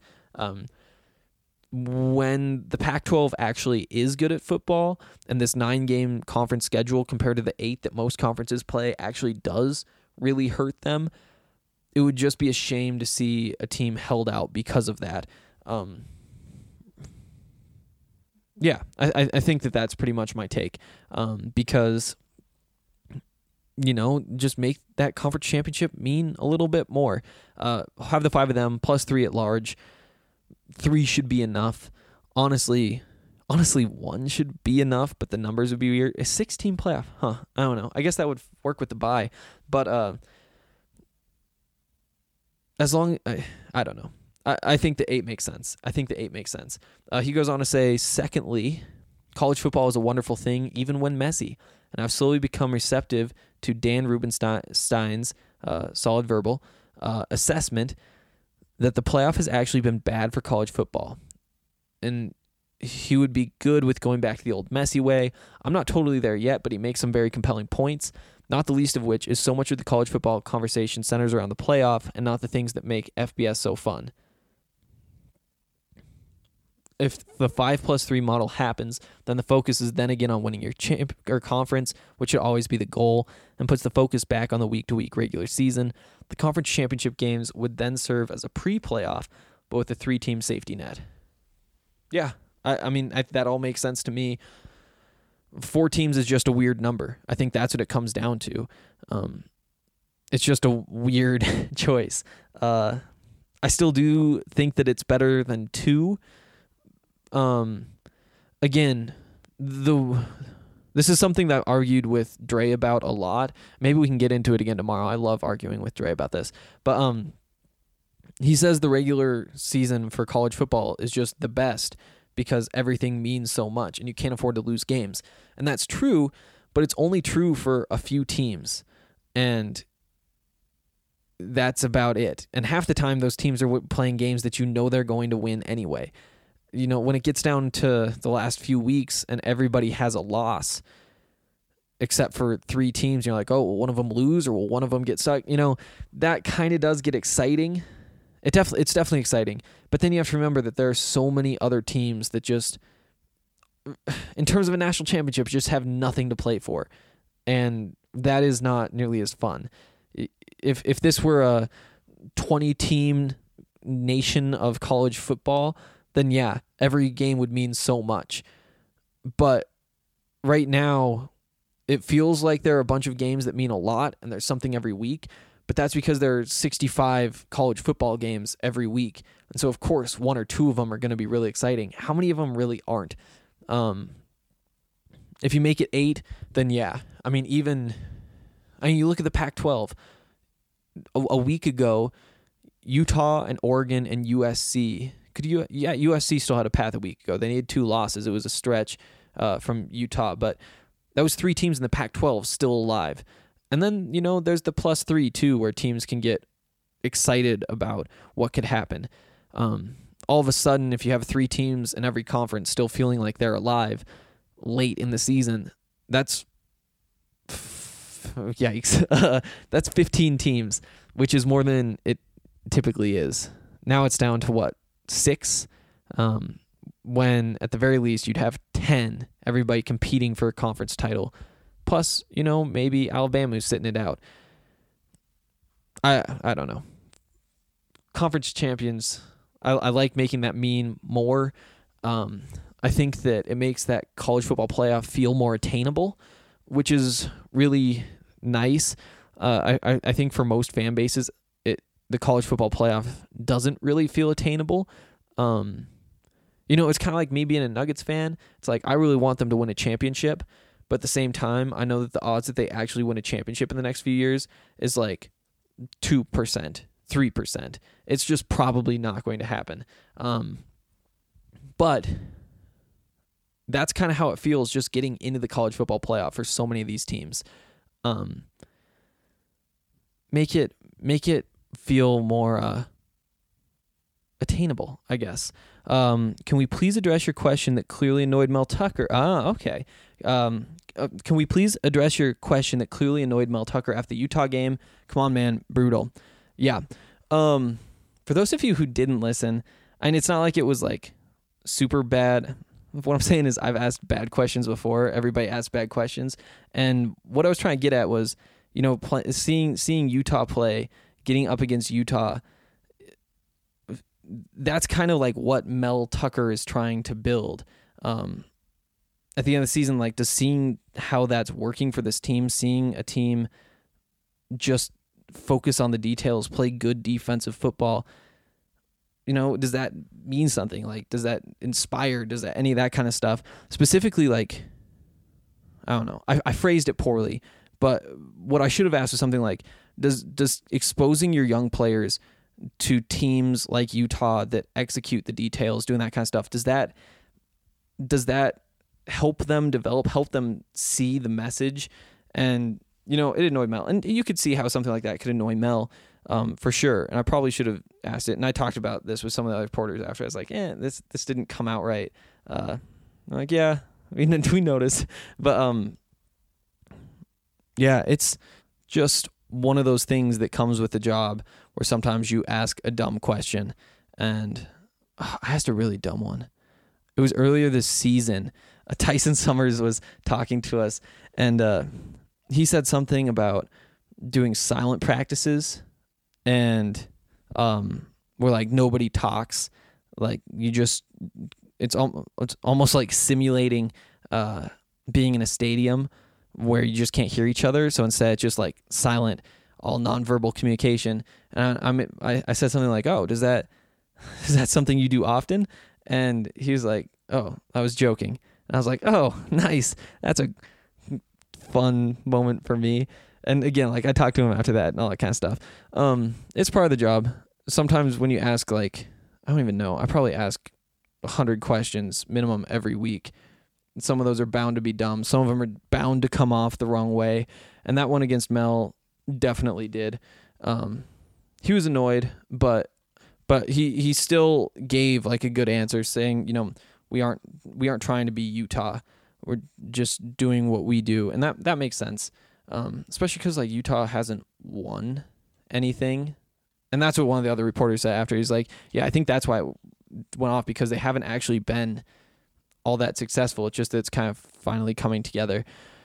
When the Pac-12 actually is good at football and this 9-game conference schedule compared to the 8 that most conferences play actually does really hurt them, it would just be a shame to see a team held out because of that. I think that's pretty much my take because, just make that conference championship mean a little bit more. Have the 5 of them plus 3 at large. 3 should be enough. Honestly, 1 should be enough, but the numbers would be weird. A 16 playoff, I don't know. I guess that would work with the bye, but as long, I don't know. I think the 8 makes sense. He goes on to say, secondly, college football is a wonderful thing, even when messy, and I've slowly become receptive to Dan Rubenstein's solid verbal assessment that the playoff has actually been bad for college football. And he would be good with going back to the old messy way. I'm not totally there yet, but he makes some very compelling points, not the least of which is so much of the college football conversation centers around the playoff and not the things that make FBS so fun. if the 5+3 model happens, then the focus is then again on winning your conference, which should always be the goal, and puts the focus back on the week-to-week regular season. The conference championship games would then serve as a pre-playoff, but with a 3-team safety net. Yeah, I mean, that all makes sense to me. 4 teams is just a weird number. I think that's what it comes down to. It's just a weird choice. I still do think that it's better than 2. Again, this is something that I've argued with Dre about a lot. Maybe we can get into it again tomorrow. I love arguing with Dre about this. But he says the regular season for college football is just the best because everything means so much and you can't afford to lose games. And that's true, but it's only true for a few teams. And that's about it. And half the time those teams are playing games that you know they're going to win anyway. You know, when it gets down to the last few weeks and everybody has a loss, except for 3 teams, you're like, oh, will one of them lose or will one of them get stuck? You know, that kind of does get exciting. It's definitely exciting. But then you have to remember that there are so many other teams that just, in terms of a national championship, just have nothing to play for. And that is not nearly as fun. If this were a 20-team nation of college football, then yeah, every game would mean so much. But right now, it feels like there are a bunch of games that mean a lot, and there's something every week. But that's because there are 65 college football games every week. And so, of course, 1 or 2 of them are going to be really exciting. How many of them really aren't? If you make it 8, then yeah. I mean, you look at the Pac-12. A week ago, Utah and Oregon and USC. USC still had a path a week ago. They needed 2 losses. It was a stretch from Utah, but that was 3 teams in the Pac-12 still alive. And then, you know, there's the +3 too, where teams can get excited about what could happen. All of a sudden, if you have 3 teams in every conference still feeling like they're alive late in the season, that's yikes. That's 15 teams, which is more than it typically is. Now it's down to 6? When at the very least you'd have 10, everybody competing for a conference title. Plus, you know, maybe Alabama's sitting it out. I don't know. Conference champions, I like making that mean more. I think that it makes that college football playoff feel more attainable, which is really nice. I think for most fan bases, the college football playoff doesn't really feel attainable. You know, it's kind of like me being a Nuggets fan. It's like I really want them to win a championship, but at the same time, I know that the odds that they actually win a championship in the next few years is like 2%, 3%. It's just probably not going to happen. But that's kind of how it feels just getting into the college football playoff for so many of these teams. Make it feel more attainable, I guess. Can we please address your question that clearly annoyed Mel Tucker? Okay. Can we please address your question that clearly annoyed Mel Tucker after the Utah game? Come on, man. Brutal. Yeah. For those of you who didn't listen, and it's not like it was like super bad. What I'm saying is I've asked bad questions before. Everybody asks bad questions. And what I was trying to get at was, you know, seeing Utah play, getting up against Utah, that's kind of like what Mel Tucker is trying to build. At the end of the season, like just seeing how that's working for this team, seeing a team just focus on the details, play good defensive football, you know, does that mean something? Like, does that inspire? Does that any of that kind of stuff? Specifically, like, I don't know. I phrased it poorly, but what I should have asked was something like, does exposing your young players to teams like Utah that execute the details, doing that kind of stuff, does that help them develop, help them see the message? And, you know, it annoyed Mel. And you could see how something like that could annoy Mel, for sure. And I probably should have asked it. And I talked about this with some of the other reporters after. I was like, this didn't come out right. I'm like, yeah, we noticed. But, yeah, it's just one of those things that comes with the job where sometimes you ask a dumb question. And I asked a really dumb one. it was earlier this season. Tyson Summers was talking to us, and he said something about doing silent practices, and where like nobody talks, like you just it's almost like simulating being in a stadium where you just can't hear each other. So instead, it's just like silent, all nonverbal communication. And I said something like, "Oh, is that something you do often?" And he was like, "Oh, I was joking." And I was like, "Oh, nice. That's a fun moment for me." And again, like I talked to him after that and all that kind of stuff. It's part of the job. Sometimes when you ask, like, I don't even know, I probably ask 100 questions minimum every week. Some of those are bound to be dumb. Some of them are bound to come off the wrong way. And that one against Mel definitely did. He was annoyed, but he still gave like a good answer, saying, you know, we aren't trying to be Utah. We're just doing what we do. And that makes sense. Especially because like Utah hasn't won anything. And that's what one of the other reporters said after. He's like, yeah, I think that's why it went off, because they haven't actually been all that successful. It's just that it's kind of finally coming together.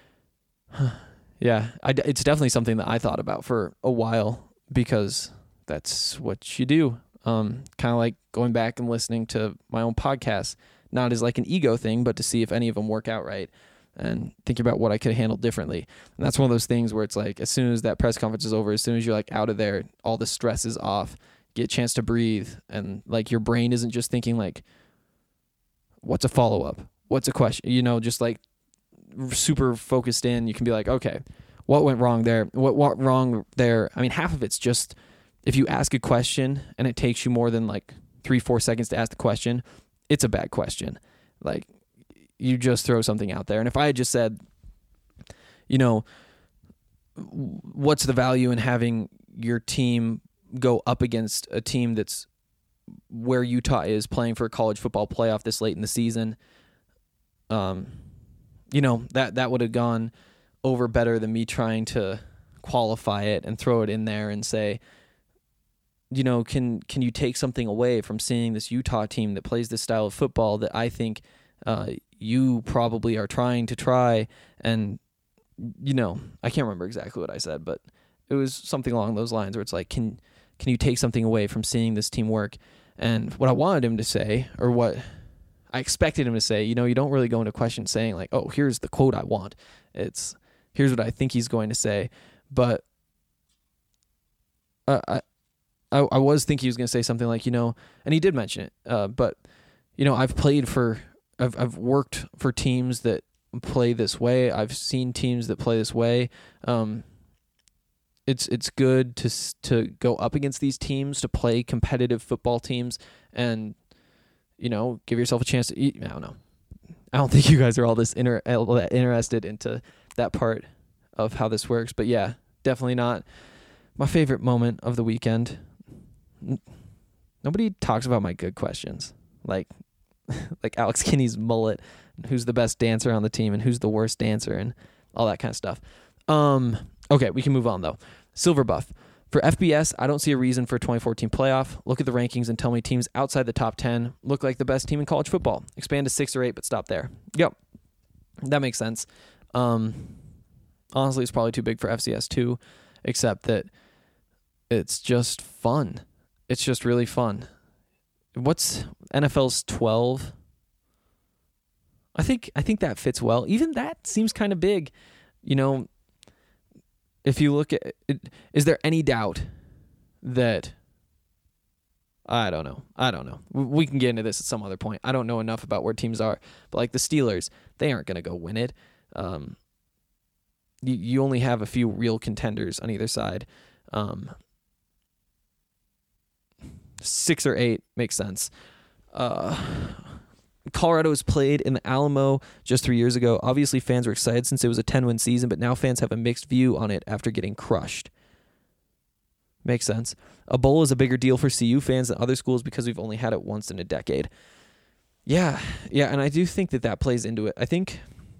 Yeah, it's definitely something that I thought about for a while, because that's what you do. Kind of like going back and listening to my own podcasts, not as like an ego thing, but to see if any of them work out right, and thinking about what I could handle differently. And that's one of those things where it's like, as soon as that press conference is over, as soon as you're like out of there, all the stress is off, get a chance to breathe. And like your brain isn't just thinking like, what's a follow-up? What's a question? You know, just like super focused in. You can be like, okay, what went wrong there? What wrong there? I mean, half of it's just, if you ask a question and it takes you more than like 3-4 seconds to ask the question, it's a bad question. Like, you just throw something out there. And if I had just said, you know, what's the value in having your team go up against a team that's where Utah is, playing for a college football playoff this late in the season, you know, that would have gone over better than me trying to qualify it and throw it in there and say, you know, can you take something away from seeing this Utah team that plays this style of football that I think you probably are trying to try? And, you know, I can't remember exactly what I said, but it was something along those lines where it's like, can you take something away from seeing this team work? And what I wanted him to say, or what I expected him to say, you know, you don't really go into a question saying like, oh, here's the quote I want. It's, here's what I think he's going to say. But I was thinking he was going to say something like, you know, and he did mention it, but, you know, I've worked for teams that play this way. I've seen teams that play this way. It's good to go up against these teams, to play competitive football teams, and, you know, give yourself a chance to eat. I don't know. I don't think you guys are all this interested into that part of how this works, but yeah, definitely not my favorite moment of the weekend. Nobody talks about my good questions, like Alex Kinney's mullet, who's the best dancer on the team and who's the worst dancer, and all that kind of stuff. Okay, we can move on though. Silver Buff. For FBS, I don't see a reason for a 2014 playoff. Look at the rankings and tell me teams outside the top 10 look like the best team in college football. Expand to 6 or 8, but stop there. Yep, that makes sense. Honestly, it's probably too big for FCS too, except that it's just fun. It's just really fun. What's NFL's 12? I think that fits well. Even that seems kind of big. You know, if you look at it, is there any doubt that, I don't know. We can get into this at some other point. I don't know enough about where teams are, but like the Steelers, they aren't going to go win it. You only have a few real contenders on either side. 6 or 8 makes sense. Colorado was played in the Alamo just 3 years ago. Obviously, fans were excited since it was a 10-win season, but now fans have a mixed view on it after getting crushed. Makes sense. A bowl is a bigger deal for CU fans than other schools because we've only had it once in a decade. Yeah, and I do think that plays into it. I think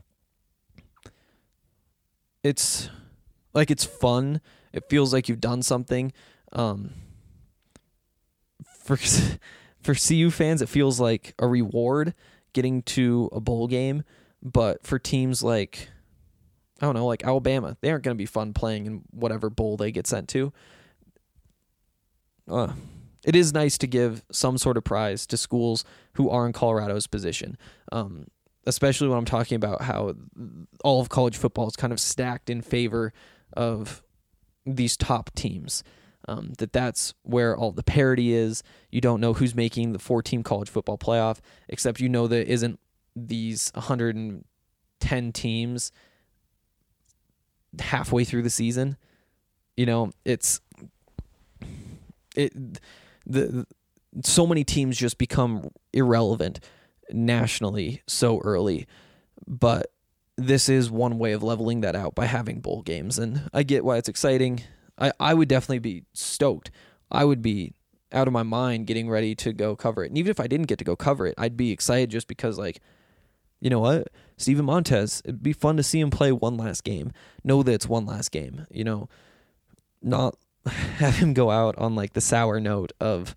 it's fun. It feels like you've done something. For CU fans, it feels like a reward getting to a bowl game, but for teams like, I don't know, like Alabama, they aren't going to be fun playing in whatever bowl they get sent to. It is nice to give some sort of prize to schools who are in Colorado's position, especially when I'm talking about how all of college football is kind of stacked in favor of these top teams. That's where all the parity is. You don't know who's making the 4-team college football playoff, except you know that isn't these 110 teams halfway through the season. You know, so many teams just become irrelevant nationally so early, but this is one way of leveling that out by having bowl games, and I get why it's exciting. I would definitely be stoked. I would be out of my mind getting ready to go cover it. And even if I didn't get to go cover it, I'd be excited just because, like, you know what? Steven Montez, it'd be fun to see him play one last game. Know that it's one last game. You know, not have him go out on, like, the sour note of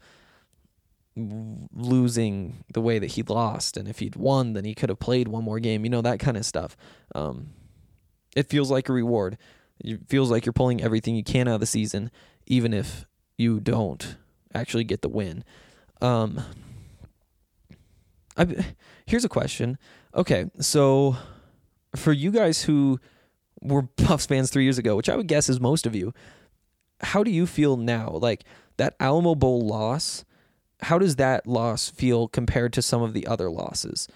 losing the way that he lost. And if he'd won, then he could have played one more game. You know, that kind of stuff. It feels like a reward. It feels like you're pulling everything you can out of the season, even if you don't actually get the win. Here's a question. Okay, so for you guys who were Buffs fans 3 years ago, which I would guess is most of you, how do you feel now? Like, that Alamo Bowl loss, how does that loss feel compared to some of the other losses?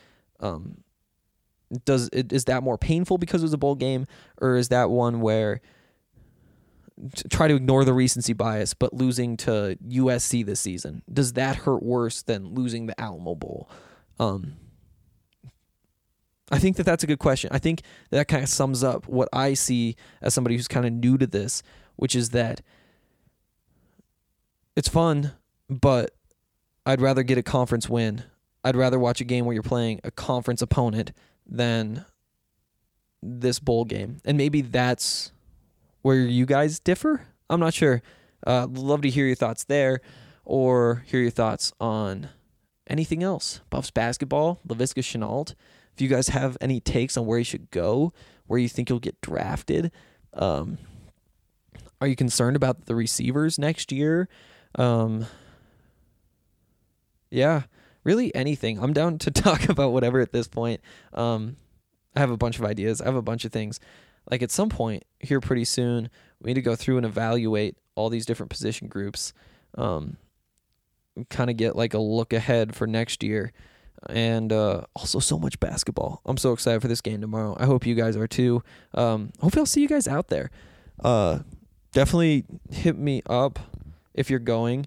Is that more painful because it was a bowl game, or is that one where try to ignore the recency bias, but losing to USC this season, does that hurt worse than losing the Alamo Bowl? I think that's a good question. I think that kind of sums up what I see as somebody who's kind of new to this, which is that it's fun, but I'd rather get a conference win. I'd rather watch a game where you're playing a conference opponent than this bowl game. And maybe that's where you guys differ. I'm not sure. Love to hear your thoughts there, or hear your thoughts on anything else. Buffs basketball, Laviska Shenault. If you guys have any takes on where he should go, where you think he'll get drafted. Are you concerned about the receivers next year? Yeah. Really anything. I'm down to talk about whatever at this point. I have a bunch of ideas. I have a bunch of things. Like, at some point here pretty soon, we need to go through and evaluate all these different position groups. Kind of get like a look ahead for next year. And also so much basketball. I'm so excited for this game tomorrow. I hope you guys are too. Hopefully I'll see you guys out there. Definitely hit me up if you're going.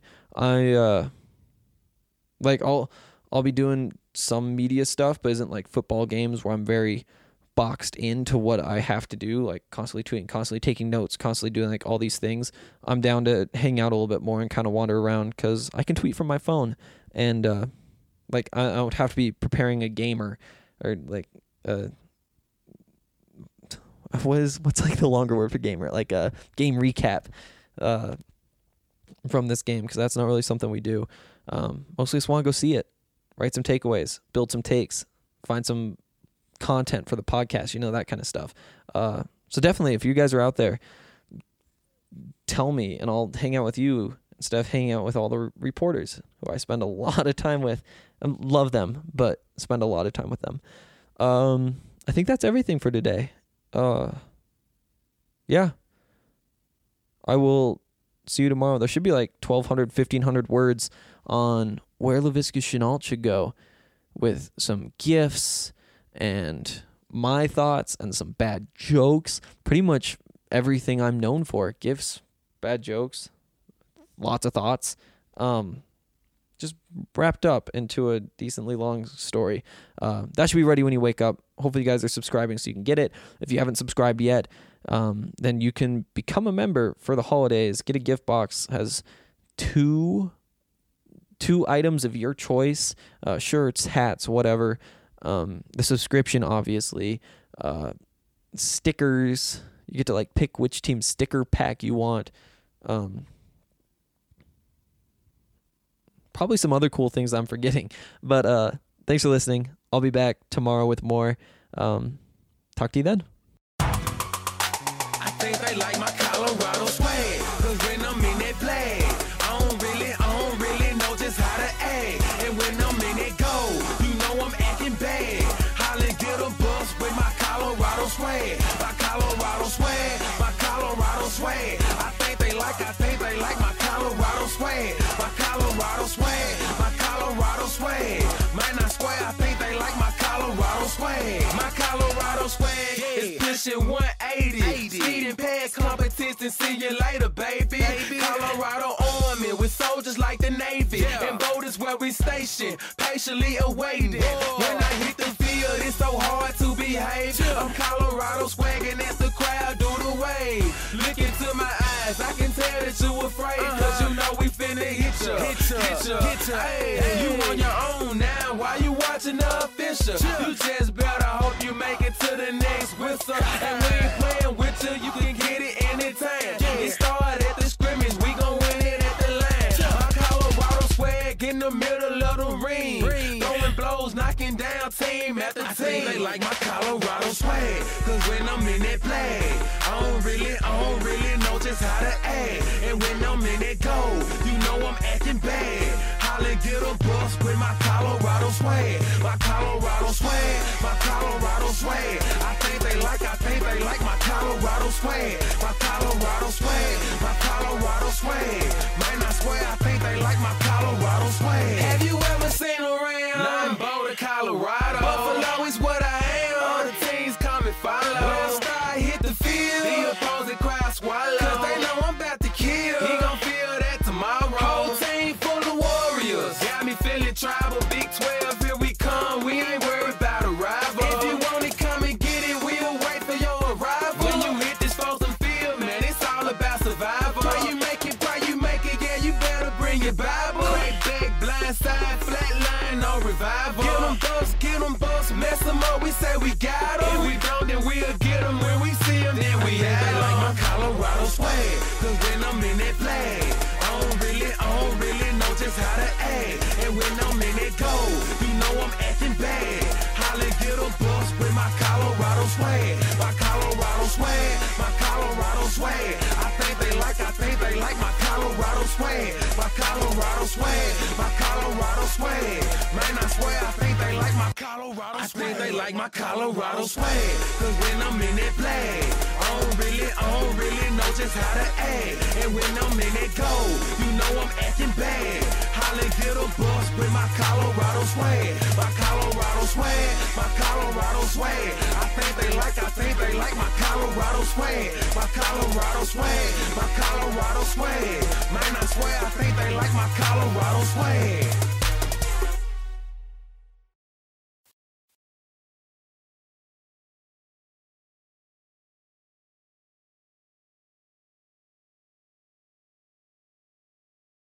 I'll be doing some media stuff, but isn't like football games where I'm very boxed into what I have to do, like constantly tweeting, constantly taking notes, constantly doing like all these things. I'm down to hang out a little bit more and kind of wander around because I can tweet from my phone, and I don't have to be preparing a gamer or like what's like the longer word for gamer, like a game recap from this game, because that's not really something we do. Mostly just want to go see it, write some takeaways, build some takes, find some content for the podcast, that kind of stuff. So definitely, if you guys are out there, tell me, and I'll hang out with you instead of hanging out with all the reporters who I spend a lot of time with. I love them, but spend a lot of time with them. I think that's everything for today. Yeah. I will see you tomorrow. There should be like 1,200, 1,500 words on where Laviska Shenault should go, with some gifts and my thoughts and some bad jokes. Pretty much everything I'm known for. Gifts, bad jokes, lots of thoughts. Just wrapped up into a decently long story. That should be ready when you wake up. Hopefully you guys are subscribing so you can get it. If you haven't subscribed yet, then you can become a member for the holidays. Get a gift box. Has two items of your choice, shirts, hats, whatever. The subscription, obviously, stickers. You get to like pick which team sticker pack you want. Probably some other cool things I'm forgetting, but Thanks for listening. I'll be back tomorrow with more. Talk to you then. I think they like my Colorado swag, 'cause when I'm in that flag, I don't really know just how to act. And when I'm in that goal, you know I'm acting bad. Hollin' get a bus with my Colorado swag, my Colorado swag, my Colorado swag. I think they like my Colorado swag, my Colorado swag, my Colorado swag. Man, I swear I think they like my Colorado swag, my Colorado swag is pushing 180. Speeding past competition, see you later, baby. Colorado Army with soldiers like the Navy, and boat is where we station, patiently awaiting. When I hit the field, it's so hard to behave. I'm Colorado swagging as the crowd do the wave. Look into my eyes, I can tell that you afraid, 'cause you know we finna hit ya. Hey, you on your own now, why you watching the official? You just better hope you make it to the next whistle. And we ain't playing with you, you can get it anytime. It started at the scrimmage, we gon' win it at the line. My Colorado swag in the middle of the ring, throwing blows, knocking down team after team. I think they like my Colorado swag, 'cause when I'm in that flag, I don't really know just how to act. And when I'm in that goal, you know I'm acting bad. Holla, get a bus with my Colorado swag, my Colorado swag, my Colorado swag. I think they like my Colorado swag, my Colorado swag, my Colorado swag. Man, I swear I think they like my Colorado swag. Have you ever seen around? Nothing but Colorado. Buffalo is what I am. All the teams come and follow. When I start hit the field, the opposing crowd swallow, 'cause they know I'm about to kill. He gon' feel that tomorrow. Whole team full of warriors, got me feeling tribal. Big 12, here we come. We ain't worried about a rival. If you want it, come and get it. We'll wait for your arrival. When you hit this frozen field, man, it's all about survival. Pray you make it, yeah, you better bring your Bible. Crack back, blind side, flat line, no revival. Get them busts, mess them up, we say we got them. If we don't, then we'll get them. When we see them, then we have them. Like my Colorado swag, 'cause when I'm in that flag, I don't really know just how to act. And when I'm in that goal, you know I'm acting bad. Holla, get a bus with my Colorado swag, my Colorado swag, my Colorado swag. I think they like my Colorado swag, my Colorado swag, my Colorado swag. Man, I swear I think they like my Colorado swag. I think they like my Colorado swag, 'cause when I'm in that flag, I don't really know just how to act. And when I'm in that goal, you know I'm acting bad. Holla, get a bus with my Colorado swag, my Colorado swag, my Colorado swag. I think they like my Colorado swag, my Colorado swag, my Colorado swag. Man, I swear I think they like my Colorado swag.